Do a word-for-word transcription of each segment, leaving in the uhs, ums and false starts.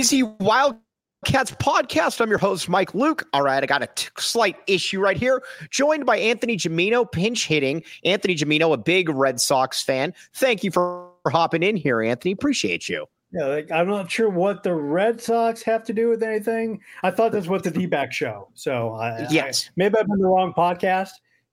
Z Wildcats podcast. I'm your host, Mike Luke. All right, I got a t- slight issue right here. Joined by Anthony Gimino, pinch hitting. Anthony Gimino, a big Red Sox fan. Thank you for hopping in here, Anthony. Appreciate you. Yeah, like, I'm not sure what the Red Sox have to do with anything. I thought this was the D-back show. So I, yes, I, maybe I'm in the wrong podcast.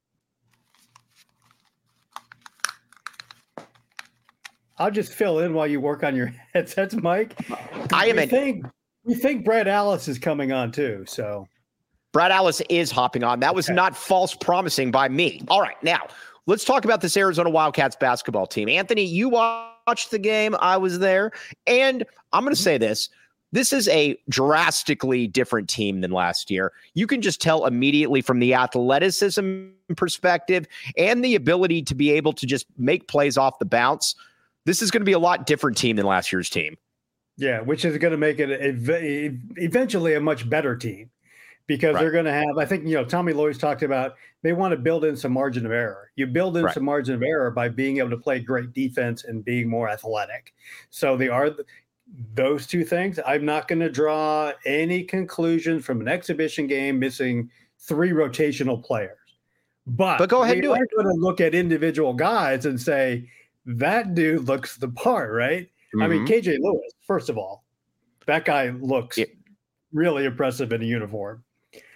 I'll just fill in while you work on your headsets, Mike. I am we in. Think, we think Brad Alice is coming on too. So Brad Alice is hopping on. That was okay. Not false promising by me. All right, now let's talk about this Arizona Wildcats basketball team. Anthony, you watched the game. I was there. And I'm going to say this. This is a drastically different team than last year. You can just tell immediately from the athleticism perspective and the ability to be able to just make plays off the bounce. This is going to be a lot different team than last year's team. Yeah, which is going to make it a, a, eventually a much better team because right. they're going to have, I think, you know, Tommy Lloyd's talked about they want to build in some margin of error. You build in right. some margin of error by being able to play great defense and being more athletic. So they are those two things. I'm not going to draw any conclusions from an exhibition game missing three rotational players. But, but go ahead we and do are it. going to look at individual guys and say, that dude looks the part, right? Mm-hmm. I mean, K J Lewis, first of all, that guy looks yeah. really impressive in a uniform.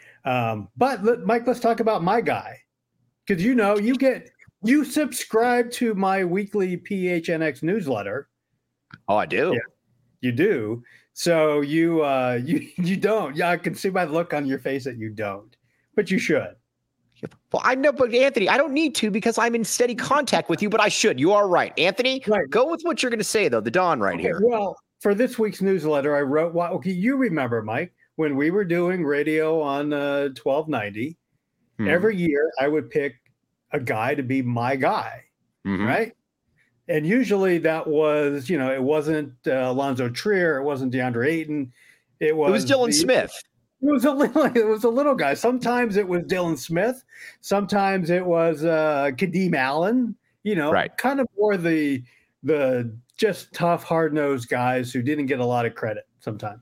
Um, but let, Mike, let's talk about my guy. Because, you know, you get, you subscribe to my weekly P H N X newsletter. Oh, I do. Yeah, you do. So you, uh, you, you don't. Yeah, I can see by the look on your face that you don't, but you should. Well, I know, but Anthony, I don't need to because I'm in steady contact with you, but I should. You are right. Anthony, right. Go with what you're going to say, though. The Don right okay, here. Well, for this week's newsletter, I wrote, well, okay, you remember, Mike, when we were doing radio on uh, twelve ninety, hmm. every year I would pick a guy to be my guy, mm-hmm. right? And usually that was, you know, it wasn't uh, Alonzo Trier. It wasn't DeAndre Ayton. It was, it was Dylan the, Smith. It was a little. It was a little guy. Sometimes it was Dylan Smith. Sometimes it was uh, Kadeem Allen. You know, right. kind of more the the just tough, hard nosed guys who didn't get a lot of credit. Sometimes.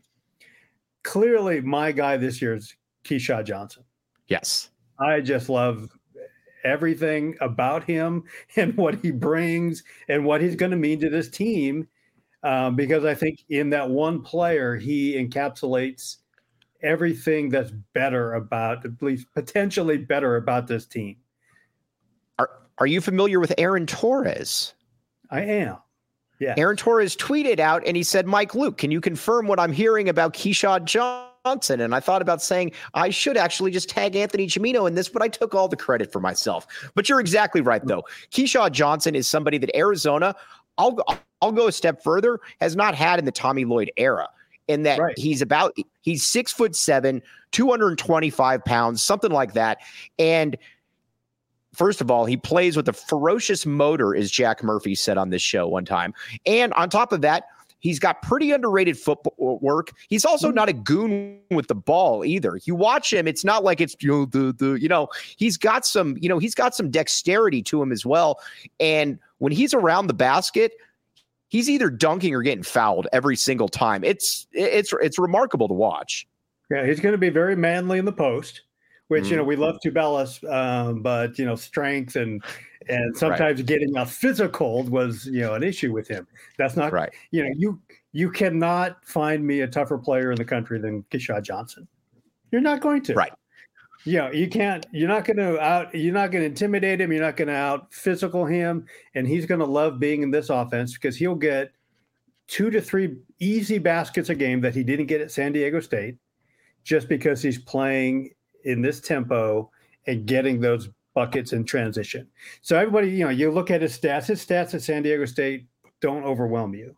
Clearly, my guy this year is Keyshawn Johnson. Yes, I just love everything about him and what he brings and what he's going to mean to this team. Um, because I think in that one player, he encapsulates everything that's better about, at least potentially better about this team. Are Are you familiar with Aaron Torres? I am. Yeah. Aaron Torres tweeted out and he said, Mike Luke, can you confirm what I'm hearing about Keyshawn Johnson? And I thought about saying I should actually just tag Anthony Gimino in this, but I took all the credit for myself. But you're exactly right, though. Keyshawn Johnson is somebody that Arizona, I'll, I'll go a step further, has not had in the Tommy Lloyd era. In that right. he's about, he's six foot seven, two hundred twenty-five pounds, something like that. And first of all, he plays with a ferocious motor, as Jack Murphy said on this show one time. And on top of that, he's got pretty underrated football work. He's also not a goon with the ball either. You watch him, it's not like it's, you know, the, the, you know, he's got some, you know, he's got some dexterity to him as well. And when he's around the basket, he's either dunking or getting fouled every single time. It's it's it's remarkable to watch. Yeah, he's going to be very manly in the post, which, mm. you know, we love Tubelis, um, but, you know, strength and and sometimes right. getting a physical was, you know, an issue with him. That's not right. You know, you you cannot find me a tougher player in the country than Keyshawn Johnson. You're not going to. Right. You know, you can't, you're not going to out, you're not going to intimidate him. You're not going to out physical him. And he's going to love being in this offense because he'll get two to three easy baskets a game that he didn't get at San Diego State just because he's playing in this tempo and getting those buckets in transition. So everybody, you know, you look at his stats, his stats at San Diego State don't overwhelm you.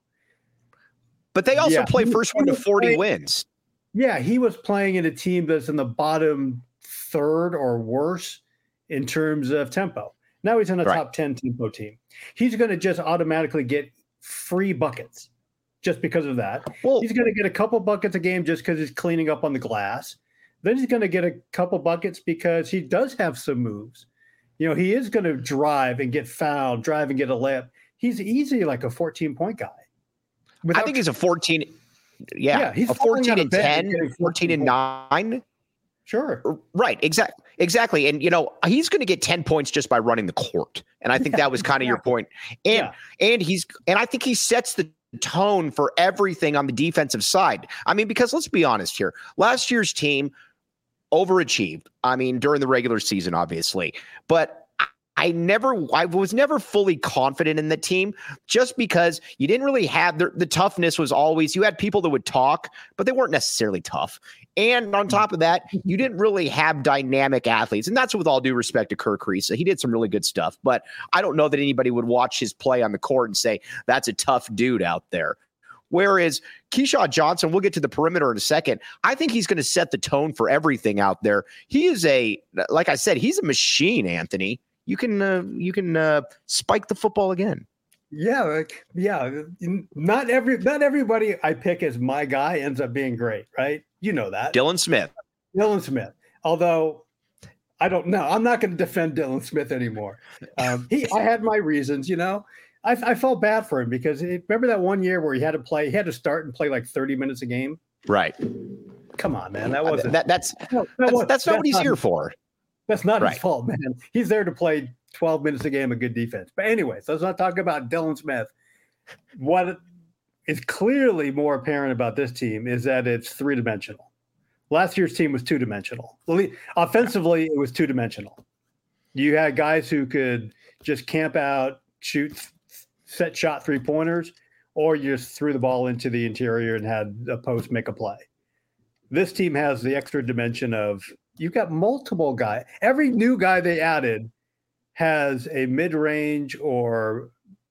But they also yeah, play first one to forty playing, wins. Yeah, he was playing in a team that's in the bottom third or worse in terms of tempo. Now he's in a right. top ten tempo team. He's going to just automatically get free buckets just because of that. Well, he's going to get a couple buckets a game just because he's cleaning up on the glass. Then he's going to get a couple buckets because he does have some moves. You know, he is going to drive and get fouled, drive and get a layup. He's easy like a fourteen-point guy. Without I think he's a fourteen. Yeah, yeah he's a fourteen and ten, ten, fourteen and nine. Sure. Right. Exactly. Exactly. And, you know, he's going to get ten points just by running the court. And I think yeah, that was kind of exactly. your point. And, yeah. and he's, and I think he sets the tone for everything on the defensive side. I mean, because let's be honest here, last year's team overachieved. I mean, during the regular season, obviously, but I never, I was never fully confident in the team just because you didn't really have the, the toughness was always, you had people that would talk, but they weren't necessarily tough. And on top of that, you didn't really have dynamic athletes. And that's with all due respect to Kerr Kriisa. He did some really good stuff, but I don't know that anybody would watch his play on the court and say, that's a tough dude out there. Whereas Keshad Johnson, we'll get to the perimeter in a second. I think he's going to set the tone for everything out there. He is a, like I said, he's a machine, Anthony. You can uh, you can uh, spike the football again. Yeah, yeah. Not every not everybody I pick as my guy ends up being great, right? You know that. Dylan Smith. Dylan Smith. Although I don't know, I'm not going to defend Dylan Smith anymore. Um, he, I had my reasons, you know. I, I felt bad for him because it, remember that one year where he had to play, he had to start and play like thirty minutes a game. Right. Come on, man. That wasn't. That, that's no, that that's, was, that's not that's what he's not, here for. That's not right. his fault, man. He's there to play twelve minutes a game of good defense. But anyway, so let's not talk about Dylan Smith. What is clearly more apparent about this team is that it's three-dimensional. Last year's team was two-dimensional. Offensively, it was two-dimensional. You had guys who could just camp out, shoot, set shot three-pointers, or you just threw the ball into the interior and had a post make a play. This team has the extra dimension of you've got multiple guys. Every new guy they added has a mid-range or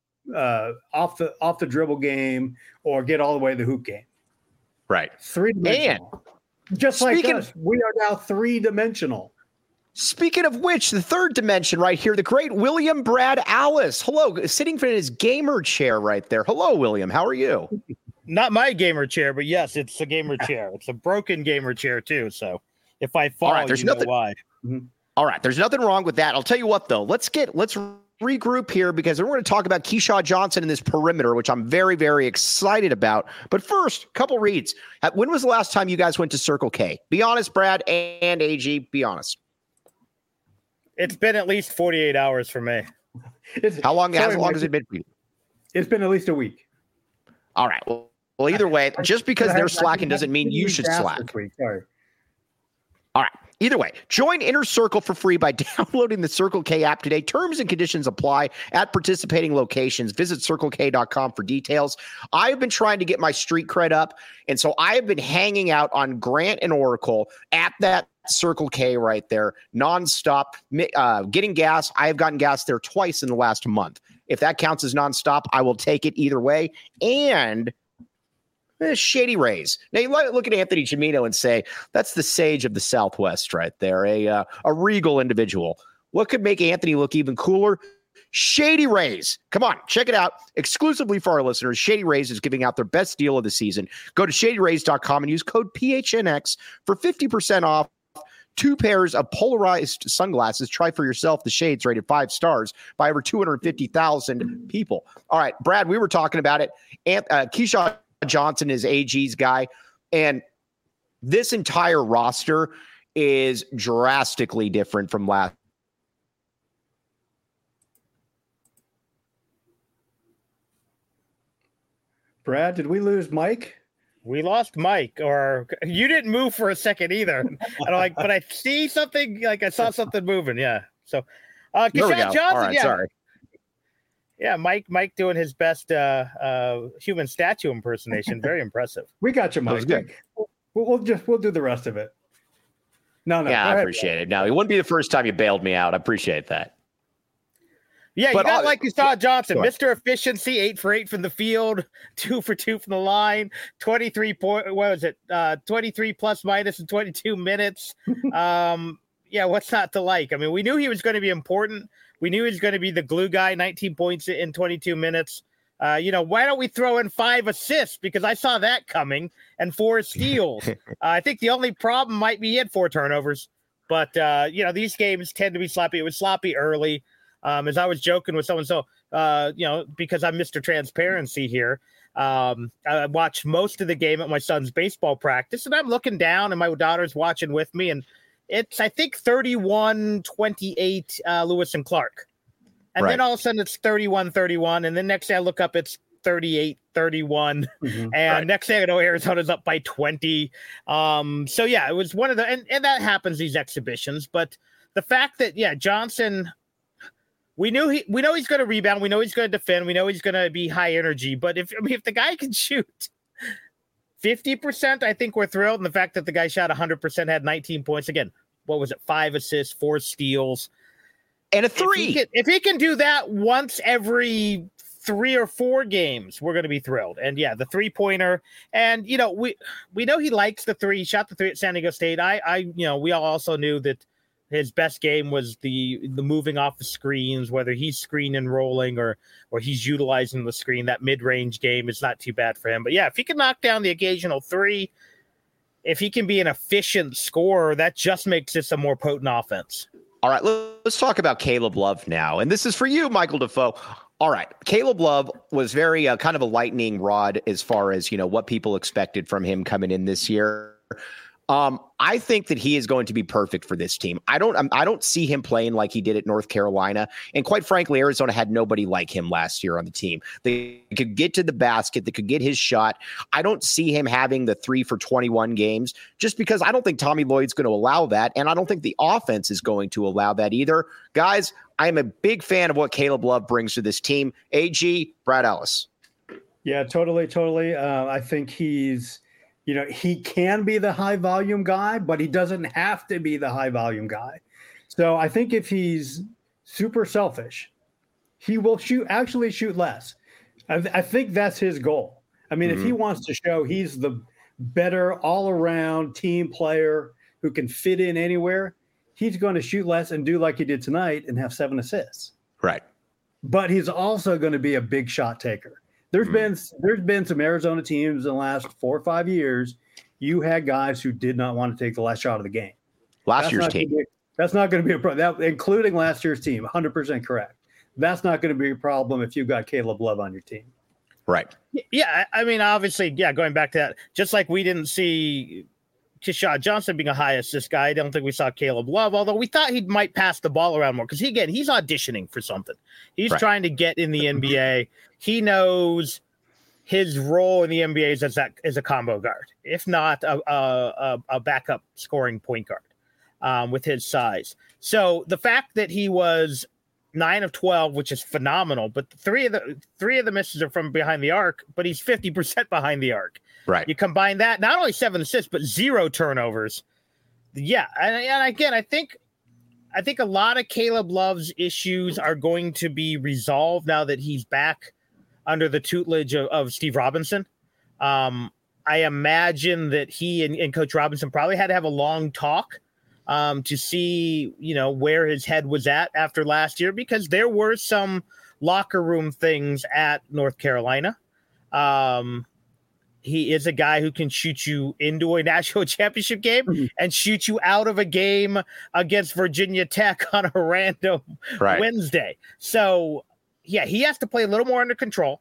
uh, off the off the dribble game or get all the way to the hoop game. Right. Three-dimensional. And just like us, of, we are now three-dimensional. Speaking of which, the third dimension right here, the great William Brad Alice. Hello, sitting in his gamer chair right there. Hello, William. How are you? Not my gamer chair, but yes, it's a gamer chair. It's a broken gamer chair too, so if I fall, right, there's you nothing, know why. Mm-hmm. All right, there's nothing wrong with that. I'll tell you what, though. Let's get let's regroup here because we're going to talk about Keshad Johnson in this perimeter, which I'm very, very excited about. But first, a couple reads. When was the last time you guys went to Circle K? Be honest, Brad and A G. Be honest. It's been at least forty-eight hours for me. It's, how long? sorry, how long has it been for you? It's been at least a week. All right. Well, well either way, just because they're slacking doesn't mean you should slack. Sorry. All right. Either way, join Inner Circle for free by downloading the Circle K app today. Terms and conditions apply at participating locations. Visit circle k dot com for details. I've been trying to get my street cred up, and so I have been hanging out on Grant and Oracle at that Circle K right there, nonstop, uh, getting gas. I have gotten gas there twice in the last month. If that counts as nonstop, I will take it either way. And Eh, Shady Rays. Now you look at Anthony Gimino and say, that's the sage of the Southwest right there, a uh, a regal individual. What could make Anthony look even cooler? Shady Rays. Come on, check it out. Exclusively for our listeners, Shady Rays is giving out their best deal of the season. Go to shady rays dot com and use code P H N X for fifty percent off two pairs of polarized sunglasses. Try for yourself the shades rated five stars by over two hundred fifty thousand people. All right, Brad, we were talking about it. Ant- uh, Keshad Johnson is A G's guy, and this entire roster is drastically different from last. Brad, did we lose Mike? We lost Mike, or you didn't move for a second either. And I'm like, but I see something, like I saw something moving. Yeah. So, uh, Keshad Johnson, All right, yeah. sorry. Yeah, Mike. Mike doing his best uh, uh, human statue impersonation. Very impressive. We got you, Mike. Good. We'll, we'll just we'll do the rest of it. No, no. Yeah, I appreciate it. No, it wouldn't be the first time you bailed me out. I appreciate that. Yeah, But you got I'll- like Keshad Johnson, Mister Efficiency, eight for eight from the field, two for two from the line, twenty-three point. What was it? Uh, twenty-three plus minus in twenty-two minutes. um, yeah, what's not to like? I mean, we knew he was going to be important. We knew he was going to be the glue guy, nineteen points in twenty-two minutes. Uh, you know, why don't we throw in five assists? Because I saw that coming, and four steals. uh, I think the only problem might be he had four turnovers. But, uh, you know, these games tend to be sloppy. It was sloppy early. Um, as I was joking with someone, so, uh, you know, because I'm Mister Transparency here, Um, I watched most of the game at my son's baseball practice, and I'm looking down, and my daughter's watching with me, and it's, I think, thirty-one twenty-eight uh, Lewis and Clark. And right. then all of a sudden it's thirty-one thirty-one, and then next day I look up, it's thirty-eight thirty-one, mm-hmm. and right. next thing I know, Arizona's up by twenty. Um, so, yeah, it was one of the – and and that happens, these exhibitions. But the fact that, yeah, Johnson – We knew he. We know he's going to rebound. We know he's going to defend. We know he's going to be high energy. But if I mean, if the guy can shoot fifty percent, I think we're thrilled. And the fact that the guy shot one hundred percent, had nineteen points. Again, what was it? Five assists, four steals, and a three. If he can, if he can do that once every three or four games, we're going to be thrilled. And yeah, the three pointer. And you know, we we know he likes the three. He shot the three at San Diego State. I I you know, we all also knew that his best game was the the moving off the screens, whether he's screen and rolling or or he's utilizing the screen. That mid-range game is not too bad for him. But yeah, if he can knock down the occasional three, if he can be an efficient scorer, that just makes this a more potent offense. All right, let's talk about Caleb Love now. And this is for you, Michael Defoe. All right, Caleb Love was very uh, kind of a lightning rod as far as, you know, what people expected from him coming in this year. Um, I think that he is going to be perfect for this team. I don't, I don't see him playing like he did at North Carolina. And quite frankly, Arizona had nobody like him last year on the team. They could get to the basket. They could get his shot. I don't see him having the three for twenty-one games just because I don't think Tommy Lloyd's going to allow that. And I don't think the offense is going to allow that either. Guys, I am a big fan of what Caleb Love brings to this team. A G, Brad Ellis. Yeah, totally. Totally. Uh, I think he's, You know, he can be the high volume guy, but he doesn't have to be the high volume guy. So I think if he's super selfish, he will shoot, actually shoot less. I, th- I think that's his goal. I mean, mm-hmm. if he wants to show he's the better all around team player who can fit in anywhere, he's going to shoot less and do like he did tonight and have seven assists. Right. But he's also going to be a big shot taker. There's mm-hmm. been there's been some Arizona teams in the last four or five years. You had guys who did not want to take the last shot of the game. Last that's year's team. Be, that's not going to be a problem, including last year's team. one hundred percent correct. That's not going to be a problem if you've got Caleb Love on your team. Right. Yeah, I mean, obviously, yeah, going back to that, just like we didn't see Keshad Johnson being a high assist guy, I don't think we saw Caleb Love, although we thought he might pass the ball around more because, he, again, he's auditioning for something. He's right. trying to get in the N B A. He knows his role in the N B A is as, that, as a combo guard, if not a, a, a backup scoring point guard um, with his size. So the fact that he was nine of twelve, which is phenomenal, but three of the three of the misses are from behind the arc, but he's fifty percent behind the arc. Right. You combine that, not only seven assists, but zero turnovers. Yeah. And, and again, I think, I think a lot of Caleb Love's issues are going to be resolved now that he's back under the tutelage of, of Steve Robinson. Um, I imagine that he and, and Coach Robinson probably had to have a long talk um, to see, you know, where his head was at after last year, because there were some locker room things at North Carolina. Um, he is a guy who can shoot you into a national championship game mm-hmm. and shoot you out of a game against Virginia Tech on a random right. Wednesday. So, yeah, he has to play a little more under control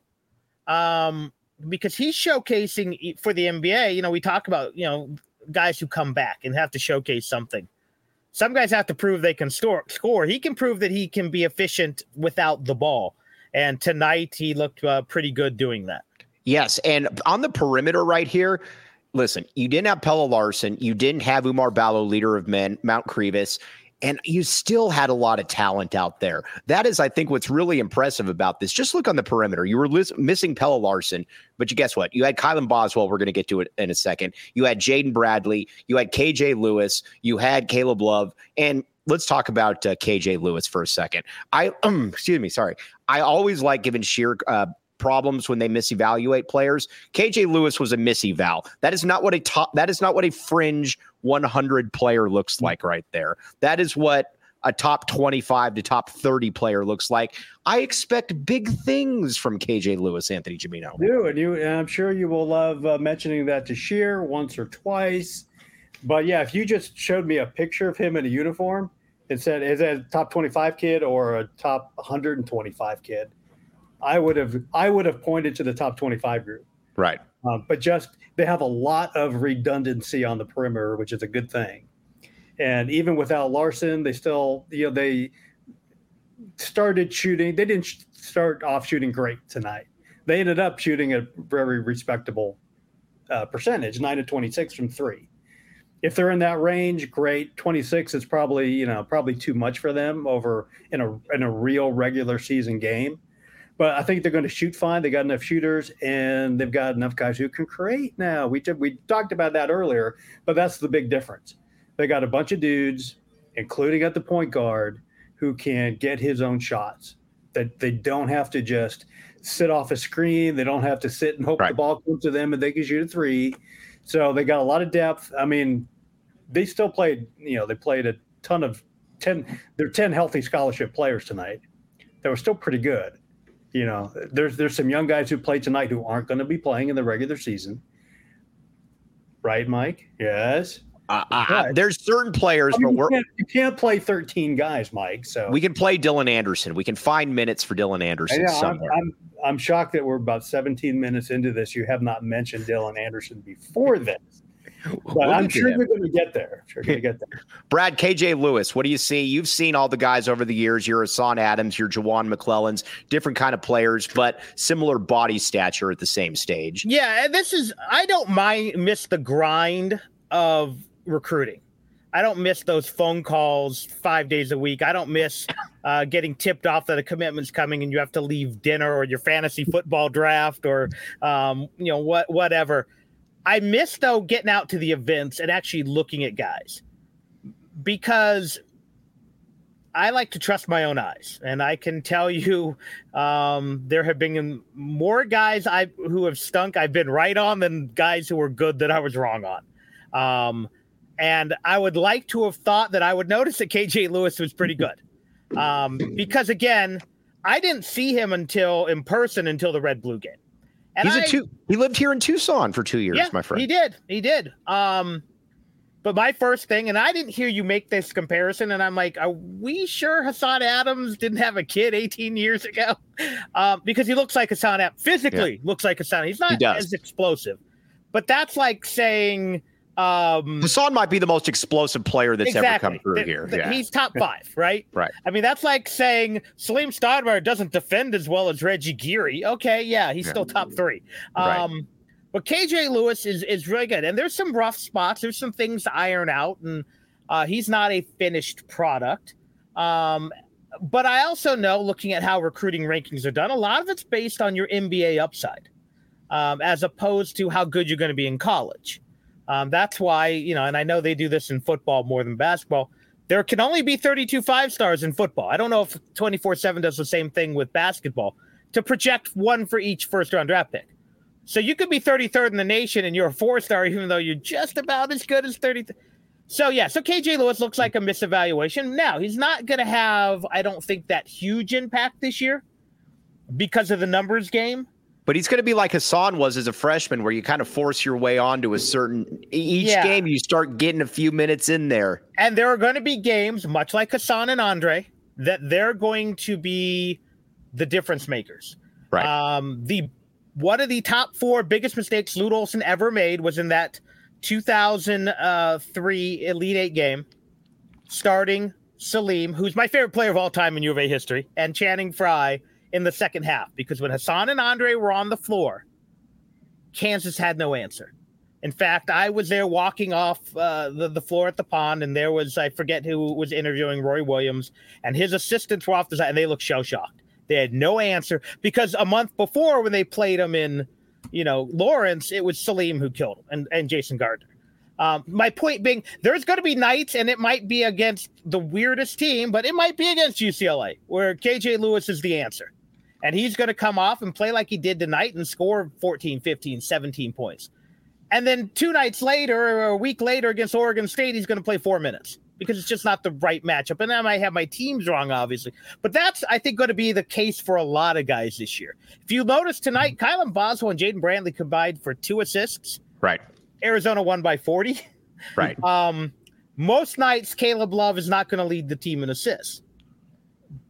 um, because he's showcasing for the N B A. You know, we talk about, you know, guys who come back and have to showcase something. Some guys have to prove they can store, score. He can prove that he can be efficient without the ball. And tonight he looked uh, pretty good doing that. Yes. And on the perimeter right here, listen, you didn't have Pelle Larsson. You didn't have Umar Ballo, leader of men, Mount Crevis. And you still had a lot of talent out there. That is, I think, what's really impressive about this. Just look on the perimeter. You were lis- missing Pelle Larsson, but you guess what? You had Kylan Boswell. We're going to get to it in a second. You had Jaden Bradley. You had K J Lewis. You had Caleb Love. And let's talk about uh, K J Lewis for a second. I um, excuse me. Sorry. I always like giving Sheer uh, problems when they misevaluate players. K J Lewis was a miseval. That is not what a top. That is not what a fringe one hundred player looks like right there. That is what a top twenty-five to top thirty player looks like. I expect big things from K J Lewis, Anthony Gimino. Do and you, and I'm sure you will love uh, mentioning that to Sheer once or twice. But yeah, if you just showed me a picture of him in a uniform and said, is that a top twenty-five kid or a top one hundred twenty-five kid? I would have I would have pointed to the top twenty-five group. Right. Um, but just they have a lot of redundancy on the perimeter, which is a good thing. And even without Larson, they still, you know, they started shooting. They didn't start off shooting great tonight. They ended up shooting a very respectable uh, percentage, nine to twenty-six from three. If they're in that range, great. twenty-six is probably, you know, probably too much for them over in a in a real regular season game. But I think they're going to shoot fine. They got enough shooters, and they've got enough guys who can create now. We did, we talked about that earlier, but that's the big difference. They got a bunch of dudes, including at the point guard, who can get his own shots. That they don't have to just sit off a screen. They don't have to sit and hope right. the ball comes to them and they can shoot a three. So they got a lot of depth. I mean, they still played, you know, they played a ton of ten. They're ten healthy scholarship players tonight. They were still pretty good. You know, there's there's some young guys who played tonight who aren't going to be playing in the regular season. Right, Mike? Yes. Uh, I, there's certain players, I mean, but you we're can't, you can't play thirteen guys, Mike. So we can play Dylan Anderson. We can find minutes for Dylan Anderson yeah, somewhere. I'm, I'm I'm shocked that we're about seventeen minutes into this. You have not mentioned Dylan Anderson before this. But We'll I'm get to sure him. you're going to get there. I'm sure you're going to get there. Brad, K J Lewis, what do you see? You've seen all the guys over the years. You're Hassan Adams, you're Jawan McClellans, different kind of players, but similar body stature at the same stage. Yeah, and this is I don't mind miss the grind of recruiting. I don't miss those phone calls five days a week. I don't miss uh, getting tipped off that a commitment's coming and you have to leave dinner or your fantasy football draft or um, you know what whatever. I miss, though, getting out to the events and actually looking at guys because I like to trust my own eyes. And I can tell you um, there have been more guys I who have stunk I've been right on than guys who were good that I was wrong on. Um, and I would like to have thought that I would notice that K J Lewis was pretty good um, because, again, I didn't see him until in person until the Red Blue game. And He's I, a two. He lived here in Tucson for two years, yeah, my friend. He did. He did. Um, but my first thing, and I didn't hear you make this comparison, and I'm like, are we sure Hassan Adams didn't have a kid eighteen years ago? Um, because he looks like Hassan Adams. Physically yeah. looks like Hassan. He's not he as explosive. But that's like saying um, Hassan might be the most explosive player that's exactly. ever come through the, here. The, yeah. He's top five, right? Right. I mean, that's like saying Salim Stoudemire doesn't defend as well as Reggie Geary. Okay, yeah, he's yeah. still top three. Um, right. But K J Lewis is is really good. And there's some rough spots. There's some things to iron out. And uh, he's not a finished product. Um, but I also know, looking at how recruiting rankings are done, a lot of it's based on your N B A upside um, as opposed to how good you're going to be in college. Um, that's why, you know, and I know they do this in football more than basketball. There can only be thirty-two five-stars in football. I don't know if twenty-four seven does the same thing with basketball to project one for each first-round draft pick. So you could be thirty-third in the nation and you're a four-star, even though you're just about as good as thirty. So, yeah, so K J Lewis looks like a misevaluation. Now, he's not going to have, I don't think, that huge impact this year because of the numbers game. But he's going to be like Hassan was as a freshman, where you kind of force your way onto a certain each yeah. game. You start getting a few minutes in there. And there are going to be games, much like Hassan and Andre, that they're going to be the difference makers. Right. Um, the one of the top four biggest mistakes Lute Olson ever made was in that two thousand three Elite Eight game, starting Salim, who's my favorite player of all time in U of A history, and Channing Frye in the second half, because when Hassan and Andre were on the floor, Kansas had no answer. In fact, I was there walking off uh, the, the floor at the pond, and there was, I forget who was interviewing Roy Williams, and his assistants were off the side, and they looked shell-shocked. They had no answer, because a month before when they played him in, you know, Lawrence, it was Salim who killed him, and, and Jason Gardner. Um, my point being, there's going to be nights, and it might be against the weirdest team, but it might be against U C L A, where K J Lewis is the answer. And he's going to come off and play like he did tonight and score fourteen, fifteen, seventeen points. And then two nights later or a week later against Oregon State, he's going to play four minutes because it's just not the right matchup. And I might have my teams wrong, obviously. But that's, I think, going to be the case for a lot of guys this year. If you notice tonight, Kylan Boswell and Jaden Brantley combined for two assists. Right. Arizona won by forty. Right. Um, most nights, Caleb Love is not going to lead the team in assists.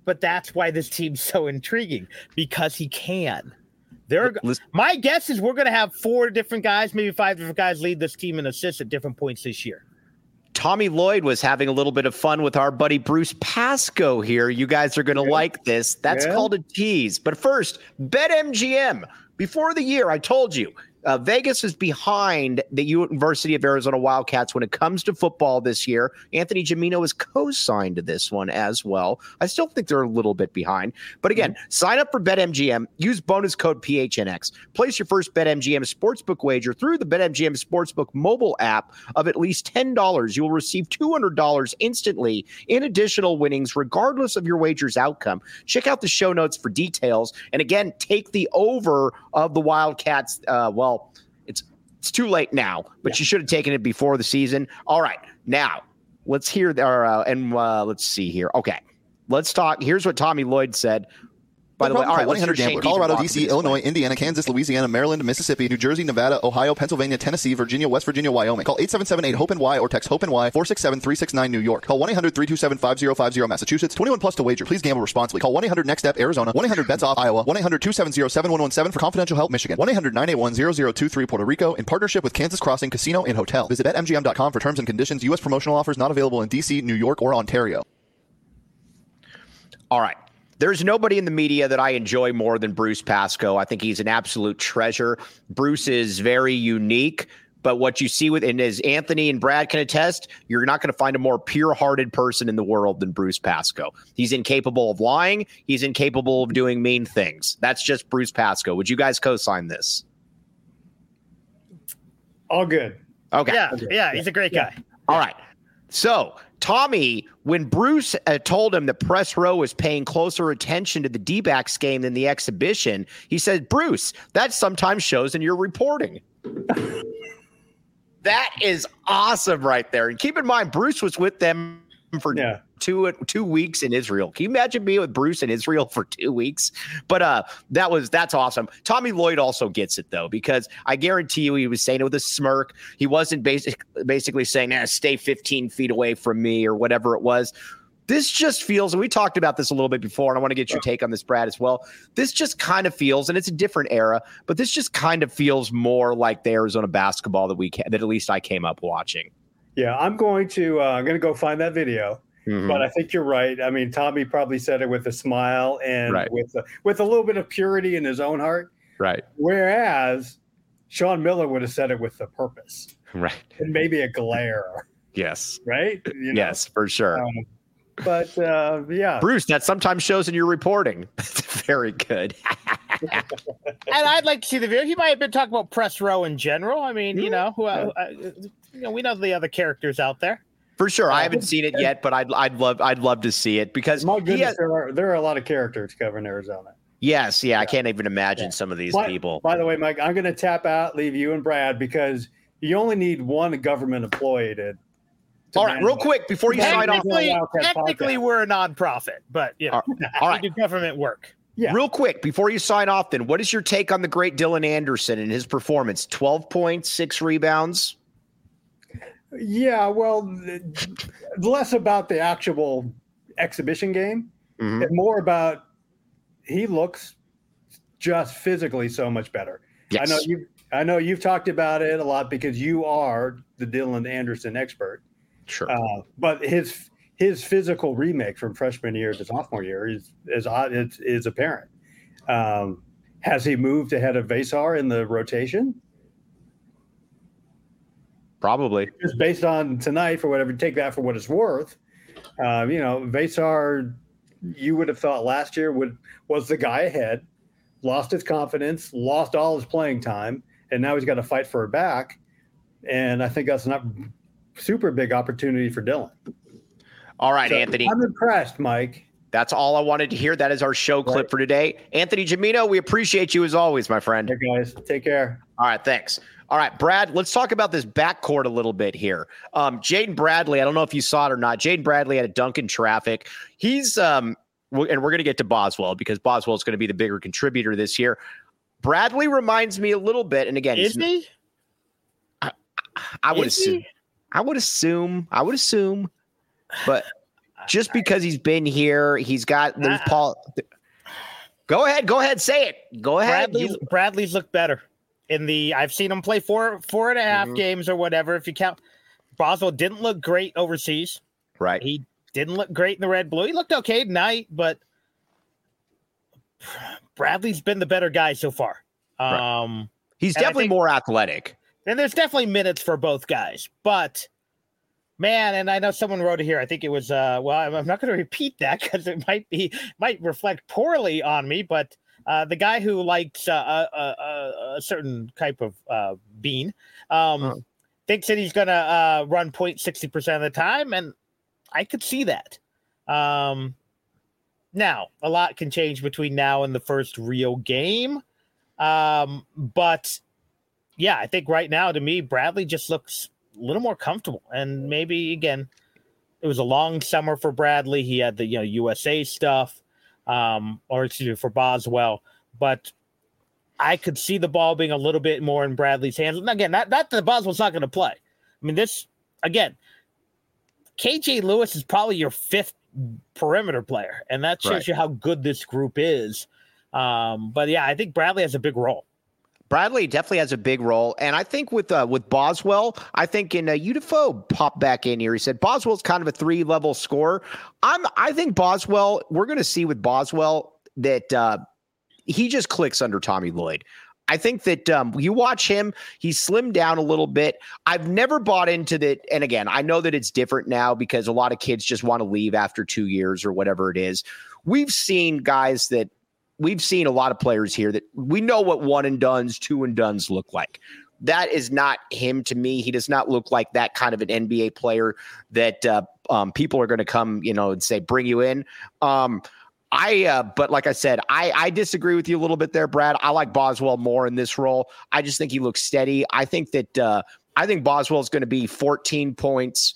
but that's why this team's so intriguing, because he can. There, my guess is we're going to have four different guys, maybe five different guys lead this team in assists at different points this year. Tommy Lloyd was having a little bit of fun with our buddy Bruce Pascoe here. You guys are going to yeah. like this. That's yeah. called a tease. But first, BetMGM. Before the year, I told you, Uh, Vegas is behind the University of Arizona Wildcats when it comes to football this year. Anthony Gimino is co-signed to this one as well. I still think they're a little bit behind. But again, mm-hmm. sign up for BetMGM. Use bonus code P H N X. Place your first BetMGM sportsbook wager through the BetMGM Sportsbook mobile app of at least ten dollars. You will receive two hundred dollars instantly in additional winnings, regardless of your wager's outcome. Check out the show notes for details. And again, take the over of the Wildcats. Uh, well, It's it's too late now, but yeah. you should have taken it before the season. All right, now let's hear our uh, and uh, let's see here. Okay, let's talk. Here's what Tommy Lloyd said. By the way, all right, one eight hundred Gambler. Colorado, D C, Illinois, Indiana, Kansas, Louisiana, Maryland, Mississippi, New Jersey, Nevada, Ohio, Pennsylvania, Tennessee, Virginia, West Virginia, Wyoming. Call eight seven seven eight HOPE N Y or text HOPE N Y four six seven three six nine New York. Call one eight hundred three two seven five zero five zero Massachusetts. twenty-one plus to wager. Please gamble responsibly. Call one eight hundred next step Arizona. one eight hundred bets off Iowa. one eight hundred two seven zero seven one one seven for confidential help Michigan. one eight hundred nine eight one zero zero two three Puerto Rico in partnership with Kansas Crossing Casino and Hotel. Visit bet M G M dot com for terms and conditions. U S promotional offers not available in D C, New York, or Ontario. All right. There's nobody in the media that I enjoy more than Bruce Pascoe. I think he's an absolute treasure. Bruce is very unique, but what you see with, and as Anthony and Brad can attest, you're not going to find a more pure-hearted person in the world than Bruce Pascoe. He's incapable of lying. He's incapable of doing mean things. That's just Bruce Pascoe. Would you guys co-sign this? All good. Okay. Yeah, yeah, he's a great guy. Yeah. All right. So, Tommy, when Bruce uh, told him that Press Row was paying closer attention to the D-backs game than the exhibition, he said, Bruce, that sometimes shows in your reporting. That is awesome right there. And keep in mind, Bruce was with them for yeah. two two weeks in Israel. Can you imagine being with Bruce in Israel for two weeks? But uh, that was that's awesome. Tommy Lloyd also gets it, though, because I guarantee you he was saying it with a smirk. He wasn't basic, basically saying, nah, stay fifteen feet away from me or whatever it was. This just feels, and we talked about this a little bit before, and I want to get your take on this, Brad, as well. This just kind of feels, and it's a different era, but this just kind of feels more like the Arizona basketball that we that at least I came up watching. Yeah, I'm going to uh, I'm going to go find that video. Mm-hmm. But I think you're right. I mean, Tommy probably said it with a smile and right. with a, with a little bit of purity in his own heart. Right. Whereas Sean Miller would have said it with a purpose. Right. And maybe a glare. Yes. Right? You know? Yes, for sure. Um, but uh, yeah. Bruce, that sometimes shows in your reporting. Very good. And I'd like to see the video. He might have been talking about Press Row in general. I mean, you know, who, uh, uh, you know, we know the other characters out there. For sure. I haven't seen it yet, but I'd I'd love I'd love to see it because my goodness, has, there are there are a lot of characters covering Arizona. Yes, yeah, yeah. I can't even imagine yeah. some of these by, people. By the way, Mike, I'm going to tap out, leave you and Brad because you only need one government employee to. to All right, real quick before you sign off. Technically, we're a nonprofit, but you know, all right, we do government work. Yeah. Real quick before you sign off, then, what is your take on the great Dylan Anderson and his performance? twelve points, six rebounds. Yeah, well, less about the actual exhibition game mm-hmm. and more about he looks just physically so much better. Yes. I know you I know you've talked about it a lot because you are the Dylan Anderson expert. Sure. Uh, but his his physical remake from freshman year to sophomore year is is is, is apparent. Um, has he moved ahead of Vesar in the rotation? Probably. Just based on tonight, for whatever, take that for what it's worth. Uh, you know, Vesar, you would have thought last year would was the guy ahead, lost his confidence, lost all his playing time, and now he's got to fight for it back. And I think that's not super big opportunity for Dylan. All right, so Anthony. I'm impressed, Mike. That's all I wanted to hear. That is our show clip right. for today. Anthony Gimino, we appreciate you as always, my friend. Hey, guys. Take care. All right, thanks. All right, Brad, let's talk about this backcourt a little bit here. Um, Jaden Bradley, I don't know if you saw it or not. Jaden Bradley had a dunk in traffic. He's, um, w- and we're going to get to Boswell because Boswell is going to be the bigger contributor this year. Bradley reminds me a little bit, and again, is he? I, I would is assume. He? I would assume. I would assume, but just because he's been here. He's got there's uh, Paul. Go ahead, go ahead, say it. Go ahead. Bradley's, you, Bradley's looked better in the. I've seen him play four four and a half mm-hmm. games or whatever. If you count, Boswell didn't look great overseas. Right. He didn't look great in the red blue. He looked okay tonight, but Bradley's been the better guy so far. Right. Um, He's definitely think, more athletic. And there's definitely minutes for both guys. But, man, and I know someone wrote it here. I think it was, uh, well, I'm not going to repeat that because it might be might reflect poorly on me. But uh, the guy who likes uh, a, a, a certain type of uh, bean um, huh. thinks that he's going to uh, run point sixty percent of the time. And I could see that. Um, now, a lot can change between now and the first real game. Um, but yeah, I think right now to me, Bradley just looks a little more comfortable, and maybe again, it was a long summer for Bradley. He had the, you know, U S A stuff, um, or excuse me, for Boswell, but I could see the ball being a little bit more in Bradley's hands. And again, not, not that Boswell's not going to play. I mean, this again, K J Lewis is probably your fifth perimeter player, and that shows right. you how good this group is. Um, but yeah, I think Bradley has a big role. Bradley definitely has a big role. And I think with uh, with Boswell, I think in uh, Udafo popped back in here. He said Boswell's kind of a three level scorer. I'm I think Boswell, we're going to see with Boswell that uh, he just clicks under Tommy Lloyd. I think that um, you watch him, he's slimmed down a little bit. I've never bought into that. And again, I know that it's different now because a lot of kids just want to leave after two years or whatever it is. We've seen guys that We've seen a lot of players here that we know what one and dones, two and dones look like. That is not him to me. He does not look like that kind of an N B A player that uh, um, people are going to come, you know, and say, bring you in. Um, I, uh, but like I said, I, I disagree with you a little bit there, Brad. I like Boswell more in this role. I just think he looks steady. I think that, uh, I think Boswell is going to be fourteen points,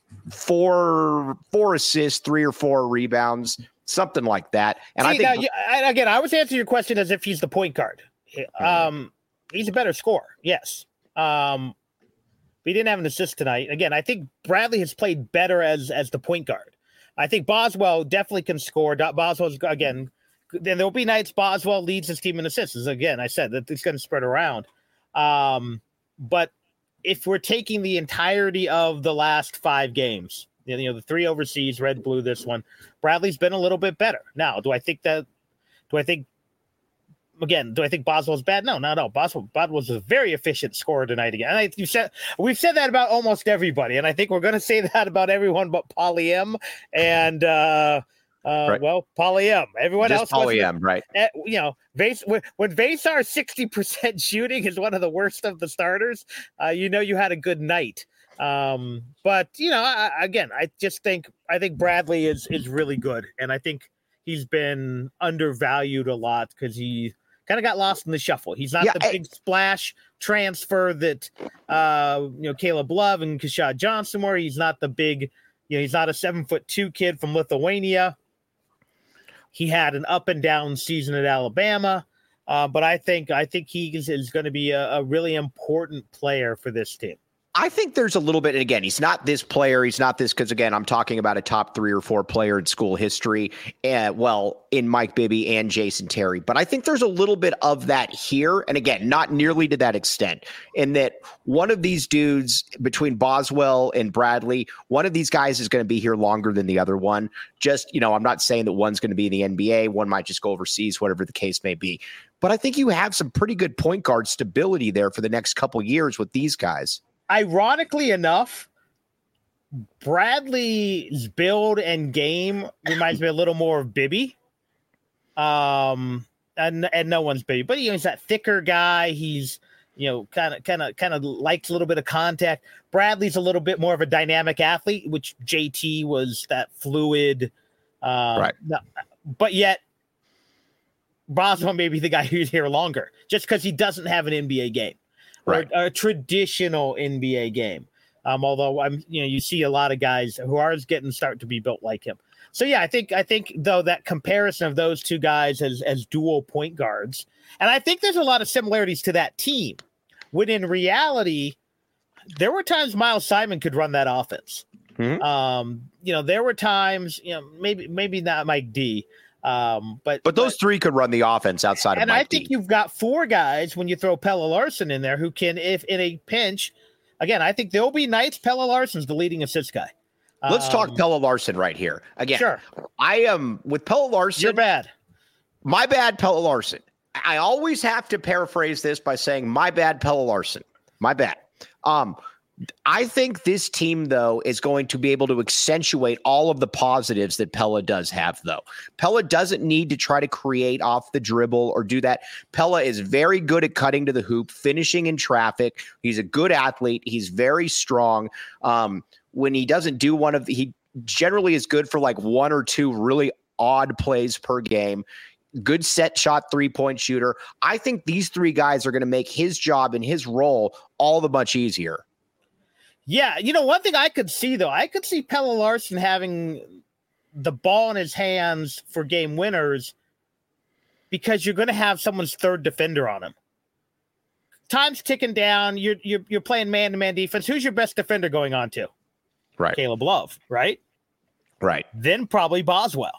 four, four assists, three or four rebounds. Something like that. And See, I think now, again, I was answering your question as if he's the point guard. Um, he's a better scorer. Yes. Um, but he didn't have an assist tonight. Again, I think Bradley has played better as, as the point guard. I think Boswell definitely can score. Boswell's again, then there'll be nights Boswell leads his team in assists. Again, I said that it's going to spread around. Um, but if we're taking the entirety of the last five games, you know, the three overseas, red, blue, this one, Bradley's been a little bit better. Now, do I think that, do I think, again, do I think Boswell's bad? No, no, no. Boswell, Boswell was a very efficient scorer tonight again. And I, you said, we've said that about almost everybody. And I think we're going to say that about everyone but Pauly M. And, uh, uh, right. well, Pauly M. Everyone Just else. Pauly M, right. At, you know, Vase, when, when Vasar sixty percent shooting is one of the worst of the starters, uh, you know, you had a good night. Um, but you know, I, again, I just think, I think Bradley is, is really good. And I think he's been undervalued a lot because he kind of got lost in the shuffle. He's not yeah, the I, big splash transfer that, uh, you know, Caleb Love and Keshad Johnson were. He's not the big, you know, he's not a seven foot two kid from Lithuania. He had an up and down season at Alabama. Uh, but I think, I think he is, is going to be a, a really important player for this team. I think there's a little bit, and again, he's not this player. He's not this because, again, I'm talking about a top three or four player in school history. Uh, well, in Mike Bibby and Jason Terry. But I think there's a little bit of that here. And again, not nearly to that extent, in that one of these dudes between Boswell and Bradley, one of these guys is going to be here longer than the other one. Just, you know, I'm not saying that one's going to be in the N B A. One might just go overseas, whatever the case may be. But I think you have some pretty good point guard stability there for the next couple years with these guys. Ironically enough, Bradley's build and game reminds me a little more of Bibby. Um, and and no one's Bibby, but you know, he's that thicker guy. He's, you know, kind of kind of kind of likes a little bit of contact. Bradley's a little bit more of a dynamic athlete, which J T was that fluid. Um, right. No, but yet, Boswell may be the guy who's here longer, just because he doesn't have an N B A game. Right. Or a traditional N B A game. Um, although I'm, you know, you see a lot of guys who are getting start to be built like him. So yeah, I think I think though that comparison of those two guys as as dual point guards, and I think there's a lot of similarities to that team. When in reality, there were times Miles Simon could run that offense. Mm-hmm. Um, you know, there were times, you know, maybe maybe not Mike D, um, but but those but, three could run the offense outside of and Mike I think D. you've got four guys when you throw Pelle Larsson in there who can, if in a pinch, again, I think there'll be nights Pelle Larsson's the leading assist guy. Let's um, talk Pelle Larsson right here. Again, Sure. I am with Pelle Larsson. You're bad. My bad, Pelle Larsson. I always have to paraphrase this by saying my bad, Pelle Larsson. My bad. Um, I think this team, though, is going to be able to accentuate all of the positives that Pelle does have, though. Pelle doesn't need to try to create off the dribble or do that. Pelle is very good at cutting to the hoop, finishing in traffic. He's a good athlete. He's very strong. Um, when he doesn't do one of the, he generally is good for like one or two really odd plays per game. Good set shot three-point shooter. I think these three guys are going to make his job and his role all the much easier. Yeah, you know, one thing I could see, though, I could see Pelle Larsson having the ball in his hands for game winners because you're going to have someone's third defender on him. Time's ticking down. You're, you're, you're playing man-to-man defense. Who's your best defender going on to? Right. Caleb Love, right? Right. Then probably Boswell.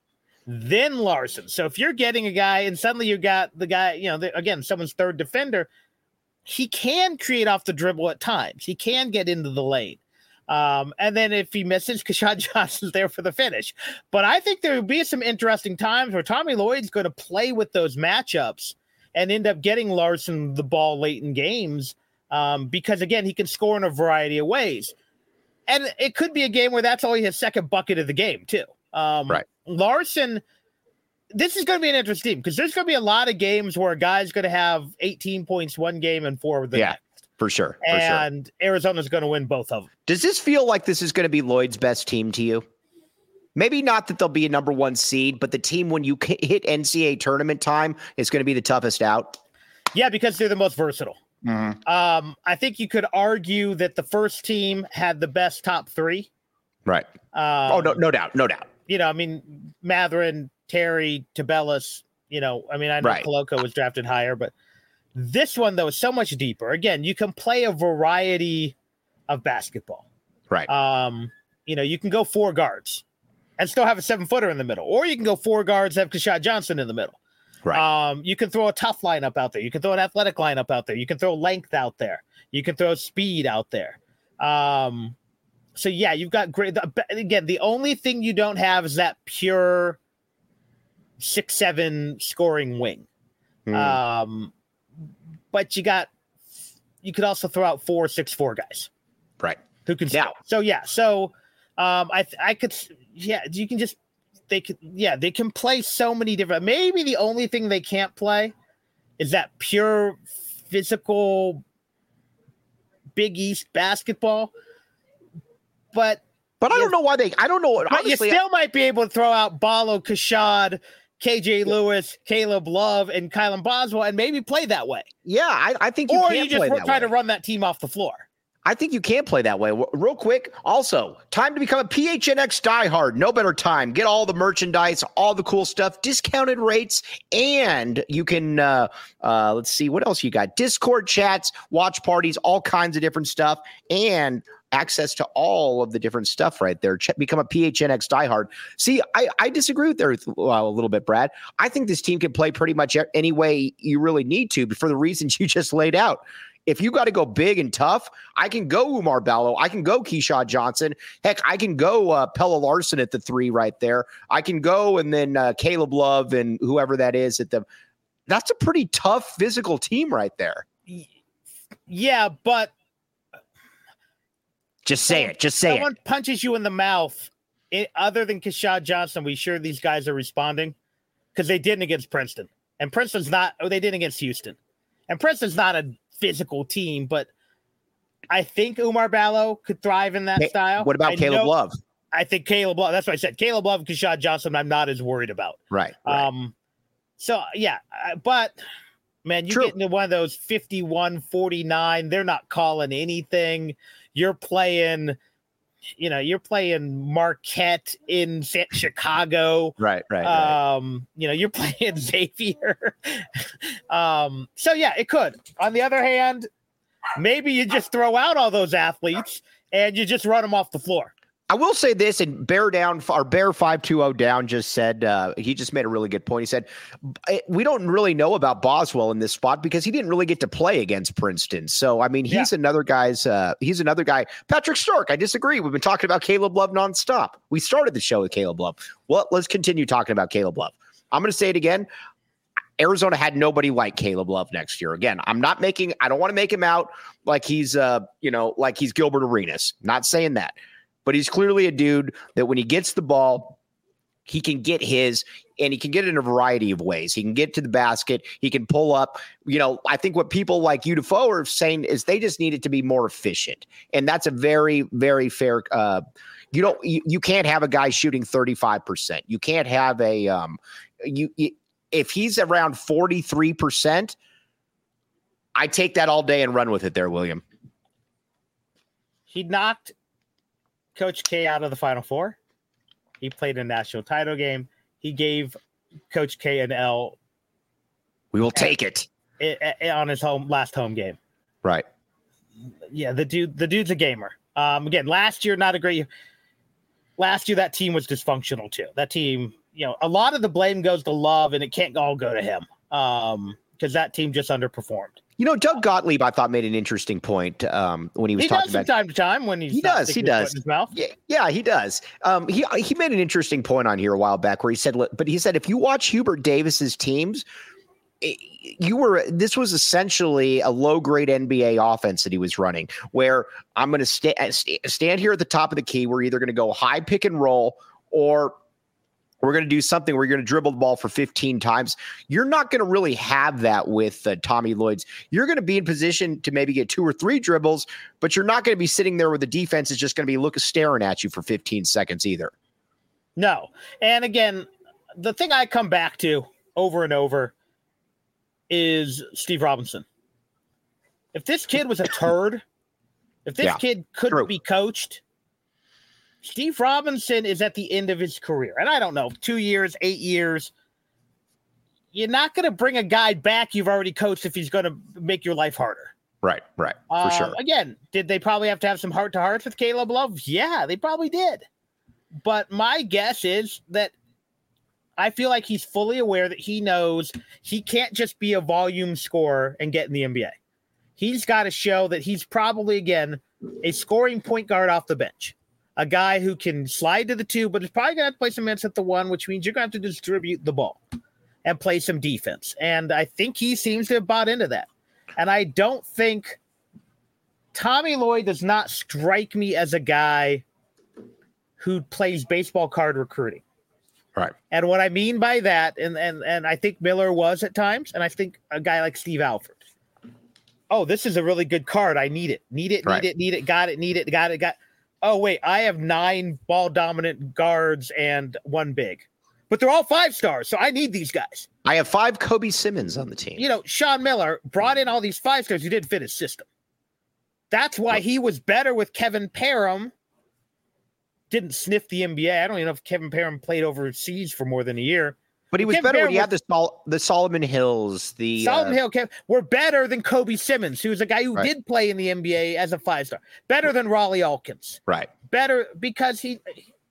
Then Larson. So if you're getting a guy and suddenly you got the guy, you know, the, again, someone's third defender, he can create off the dribble at times. He can get into the lane. Um, and then if he misses, Keshad Johnson's there for the finish. But I think there will be some interesting times where Tommy Lloyd's going to play with those matchups and end up getting Larson the ball late in games um, because, again, he can score in a variety of ways. And it could be a game where that's only his second bucket of the game, too. Um, right. Larson, this is going to be an interesting because there's going to be a lot of games where a guy's going to have eighteen points one game and four the yeah, next. For sure. For and sure. Arizona's going to win both of them. Does this feel like this is going to be Lloyd's best team to you? Maybe not that they'll be a number one seed, but the team when you hit N C A A tournament time is going to be the toughest out. Yeah, because they're the most versatile. Mm-hmm. Um, I think you could argue that the first team had the best top three. Right. Um, oh, no, no doubt. No doubt. You know, I mean, Matherin, Terry, Tabellas, you know, I mean, I know right. Koloko was drafted higher, but this one, though, is so much deeper. Again, you can play a variety of basketball. Right. Um, you know, you can go four guards and still have a seven-footer in the middle, or you can go four guards and have Keshad Johnson in the middle. Right. Um, you can throw a tough lineup out there. You can throw an athletic lineup out there. You can throw length out there. You can throw speed out there. Um, so, yeah, you've got great. Again, the only thing you don't have is that pure six seven scoring wing. Mm. Um, but you got you could also throw out four six four guys. Right. Who can yeah. score. So, yeah. So, um, I I could – yeah, you can just – They can, yeah, they can play so many different. Maybe the only thing they can't play is that pure physical Big East basketball. But but I don't know why they. I don't know. But you still I, might be able to throw out Ballo, Keshad, K J Lewis, Caleb Love, and Kylan Boswell, and maybe play that way. Yeah, I, I think you or can you just play that try way. to run that team off the floor. I think you can play that way. Real quick, also, time to become a P H N X diehard. No better time. Get all the merchandise, all the cool stuff, discounted rates, and you can, uh, uh, let's see, what else you got? Discord chats, watch parties, all kinds of different stuff, and access to all of the different stuff right there. Ch- become a P H N X diehard. See, I, I disagree with there uh, a little bit, Brad. I think this team can play pretty much any way you really need to for the reasons you just laid out. If you got to go big and tough, I can go Umar Ballo. I can go Keshad Johnson. Heck, I can go uh, Pelle Larsson at the three right there. I can go and then uh, Caleb Love and whoever that is at the. That's a pretty tough physical team right there. Yeah, but just say someone, it. Just say someone it. punches you in the mouth. It, other than Keshad Johnson, we sure these guys are responding because they didn't against Princeton, and Princeton's not. Oh, they didn't against Houston, and Princeton's not a physical team, but I think Umar Ballo could thrive in that hey, style. What about I Caleb know, Love? I think Caleb Love, that's what I said. Caleb Love and Keshad Johnson, I'm not as worried about. Right. right. Um, so, yeah, but, man, you True. get into one of those fifty-one forty-nine, they're not calling anything. You're playing, you know, you're playing Marquette in Chicago. Right, right, Um, right. You know, you're playing Xavier. um, so, yeah, it could. On the other hand, maybe you just throw out all those athletes and you just run them off the floor. I will say this, and Bear Down, or Bear five two zero Down just said, uh, he just made a really good point. He said, we don't really know about Boswell in this spot because he didn't really get to play against Princeton. So, I mean, he's yeah. another guy's, uh, he's another guy. Patrick Stark, I disagree. We've been talking about Caleb Love nonstop. We started the show with Caleb Love. Well, let's continue talking about Caleb Love. I'm going to say it again. Arizona had nobody like Caleb Love next year. Again, I'm not making, I don't want to make him out like he's, uh, you know, like he's Gilbert Arenas. Not saying that. But he's clearly a dude that when he gets the ball, he can get his, and he can get it in a variety of ways. He can get to the basket. He can pull up. You know, I think what people like you, Defoe, are saying is they just need it to be more efficient. And that's a very, very fair. Uh, you don't, you, you can't have a guy shooting thirty-five percent. You can't have a, um, you, you if he's around forty-three percent, I take that all day and run with it there, William. He knocked Coach K out of the Final Four. He played a national title game. He gave Coach K an L. We will take it. On his home last home game. Right. Yeah, the dude, the dude's a gamer. Um, again, last year, not a great. Last year, that team was dysfunctional too. That team, you know, a lot of the blame goes to Love, and it can't all go to him um, because that team just underperformed. You know, Doug Gottlieb, I thought, made an interesting point um, when he was he talking does about from time to time when he's he does he does his mouth. Yeah, yeah, he does. Um, he he made an interesting point on here a while back where he said, but he said if you watch Hubert Davis's teams, it, you were this was essentially a low grade N B A offense that he was running, where I'm going to sta- st- stand here at the top of the key. We're either going to go high pick and roll or we're going to do something where you're going to dribble the ball for fifteen times. You're not going to really have that with uh, Tommy Lloyd's. You're going to be in position to maybe get two or three dribbles, but you're not going to be sitting there where the defense is just going to be looking staring at you for fifteen seconds either. No. And again, the thing I come back to over and over is Steve Robinson. If this kid was a turd, if this yeah, kid couldn't true. be coached, Steve Robinson is at the end of his career. And I don't know, two years, eight years. You're not going to bring a guy back you've already coached if he's going to make your life harder. Right, right, for um, sure. Again, did they probably have to have some heart-to-hearts with Caleb Love? Yeah, they probably did. But my guess is that I feel like he's fully aware that he knows he can't just be a volume scorer and get in the N B A. He's got to show that he's probably, again, a scoring point guard off the bench. A guy who can slide to the two, but is probably going to have to play some minutes at the one, which means you're going to have to distribute the ball and play some defense. And I think he seems to have bought into that. And I don't think Tommy Lloyd does not strike me as a guy who plays baseball card recruiting. Right. And what I mean by that, and, and, and I think Miller was at times, and I think a guy like Steve Alford. Oh, this is a really good card. I need it. Need it, need right. it, need it, got it, need it, got it, got it. Oh, wait, I have nine ball-dominant guards and one big. But they're all five stars, so I need these guys. I have five Kobe Simmons on the team. You know, Sean Miller brought in all these five stars who didn't fit his system. That's why he was better with Kevin Parham. Didn't sniff the N B A. I don't even know if Kevin Parham played overseas for more than a year. But he was Kevin better Parham when he had the, Sol- the Solomon Hills. The Solomon uh, Hill Kev, were better than Kobe Simmons, who's a guy who right. did play in the N B A as a five-star. Better than Raleigh Alkins. Right. Better because he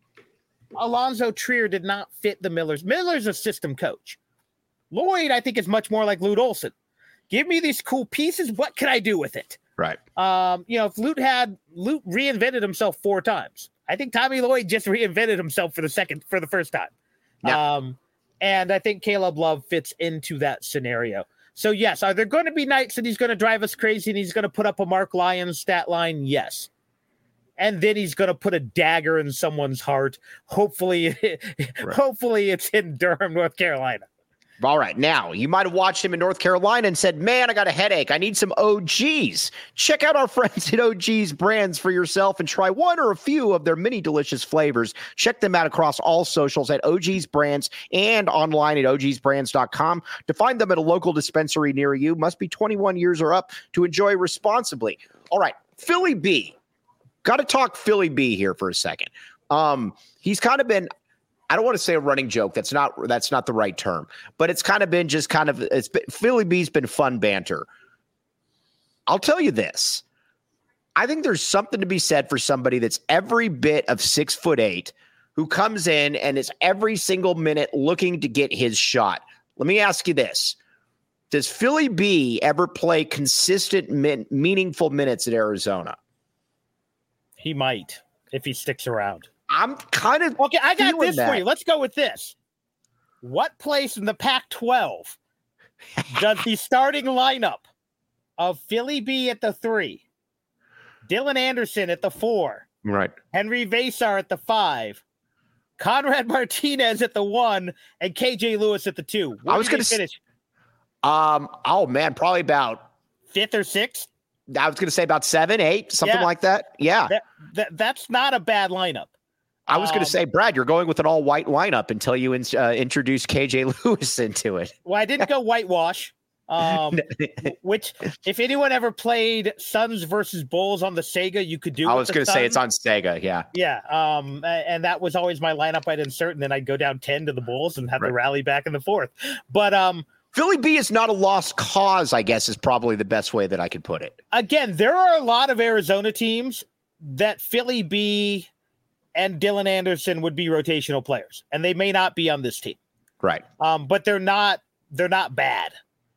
Alonzo Trier did not fit the Millers. Miller's a system coach. Lloyd, I think, is much more like Lute Olson. Give me these cool pieces. What can I do with it? Right. Um, you know, if Lute had Lute reinvented himself four times. I think Tommy Lloyd just reinvented himself for the second, for the first time. Yeah. Um, and I think Caleb Love fits into that scenario. So yes, are there going to be nights that he's going to drive us crazy and he's going to put up a Mark Lyons stat line? Yes. And then he's going to put a dagger in someone's heart. Hopefully, right. hopefully it's in Durham, North Carolina. All right. Now, you might have watched him in North Carolina and said, man, I got a headache. I need some O Gs. Check out our friends at O G's Brands for yourself and try one or a few of their many delicious flavors. Check them out across all socials at O G's Brands and online at O Gs brands dot com. To find them at a local dispensary near you, must be twenty-one years or up to enjoy responsibly. All right. Philly B. Got to talk Philly B here for a second. Um, he's kind of been... I don't want to say a running joke. That's not that's not the right term, but it's kind of been just kind of it's been, Philly B's been fun banter. I'll tell you this. I think there's something to be said for somebody that's every bit of six foot eight, who comes in and is every single minute looking to get his shot. Let me ask you this. Does Philly B ever play consistent, min- meaningful minutes at Arizona? He might, if he sticks around. I'm kind of Okay, I got this that. for you. Let's go with this. What place in the Pac twelve does the starting lineup of Philly B at the three, Dylan Anderson at the four, Right. Henry Vasar at the five, Conrad Martinez at the one, and K J Lewis at the two? Where I was going to finish. Um. Oh man, probably about Fifth or sixth? I was going to say about seven, eight, something Yeah. like that. Yeah. That, that that's not a bad lineup. I was going Um, to say, Brad, you're going with an all white lineup until you in, uh, introduce K J Lewis into it. Well, I didn't go whitewash. Um, which, if anyone ever played Suns versus Bulls on the Sega, you could do. I with was the going to say it's Suns. on Sega. Yeah. Yeah. Um, a- and that was always my lineup I'd insert, and then I'd go down ten to the Bulls and have Right. to rally back in the fourth. But um, Philly B is not a lost cause, I guess, is probably the best way that I could put it. again, there are a lot of Arizona teams that Philly B and Dylan Anderson would be rotational players, and they may not be on this team. Right. Um, but they're not. They're not bad.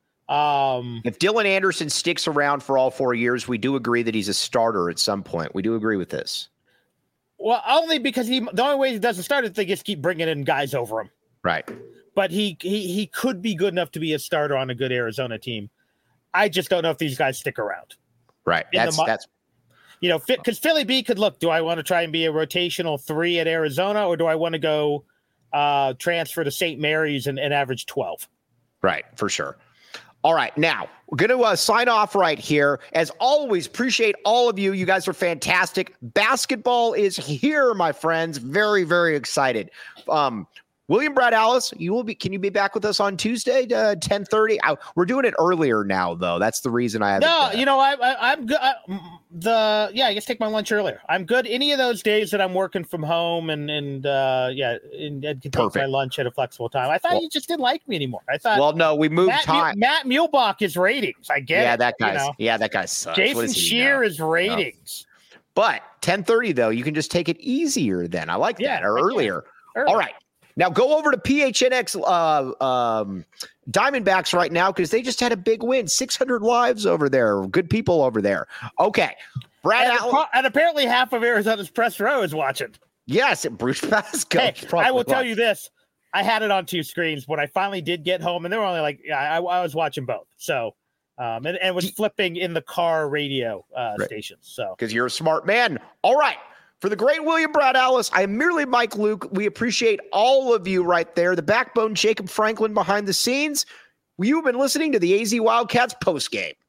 Um, If Dylan Anderson sticks around for all four years, we do agree that he's a starter at some point. We do agree with this. well, only because he. The only way he doesn't start is they just keep bringing in guys over him. Right. But he he he could be good enough to be a starter on a good Arizona team. I just don't know if these guys stick around. Right. In the That's mo- that's You know, because Philly B could look. Do I want to try and be a rotational three at Arizona, or do I want to go uh, transfer to Saint Mary's and, and average twelve? right, for sure. All right, now we're going to uh, sign off right here. As always, appreciate all of you. You guys are fantastic. Basketball is here, my friends. Very, very excited. Um, William Brad Alice, you will be. Can you be back with us on Tuesday, uh, ten thirty? We're doing it earlier now, though. That's the reason I have. No, you know, I, I, I'm good. I, the yeah, I just take my lunch earlier. I'm good. Any of those days that I'm working from home and and uh, yeah, and, and can take Perfect. my lunch at a flexible time. I thought Well- you just didn't like me anymore. I thought. Well, no, we moved Matt, time. Matt Muehlbach is ratings. I get Yeah, it. that you guy's. know. Yeah, that guy sucks. What Jason does he Shear know? is ratings. But ten thirty though, you can just take it easier. Then I like Yeah, that, or I can. earlier. Early. All right. Now go over to P H N X uh, um, Diamondbacks right now because they just had a big win. six hundred lives over there. Good people over there. Okay. Brad And, Allen. and apparently half of Arizona's press row is watching. Yes, Bruce Pasco. Hey, I will tell you this. I had it on two screens when I finally did get home, and they were only like, yeah, I, I was watching both. So, um, and, and was flipping in the car radio uh, Right. stations. So, because you're a smart man. All right. For the great William Brad Alice, I am merely Mike Luke. We appreciate all of you right there. The backbone, Jacob Franklin behind the scenes. You've been listening to the A Z Wildcats postgame.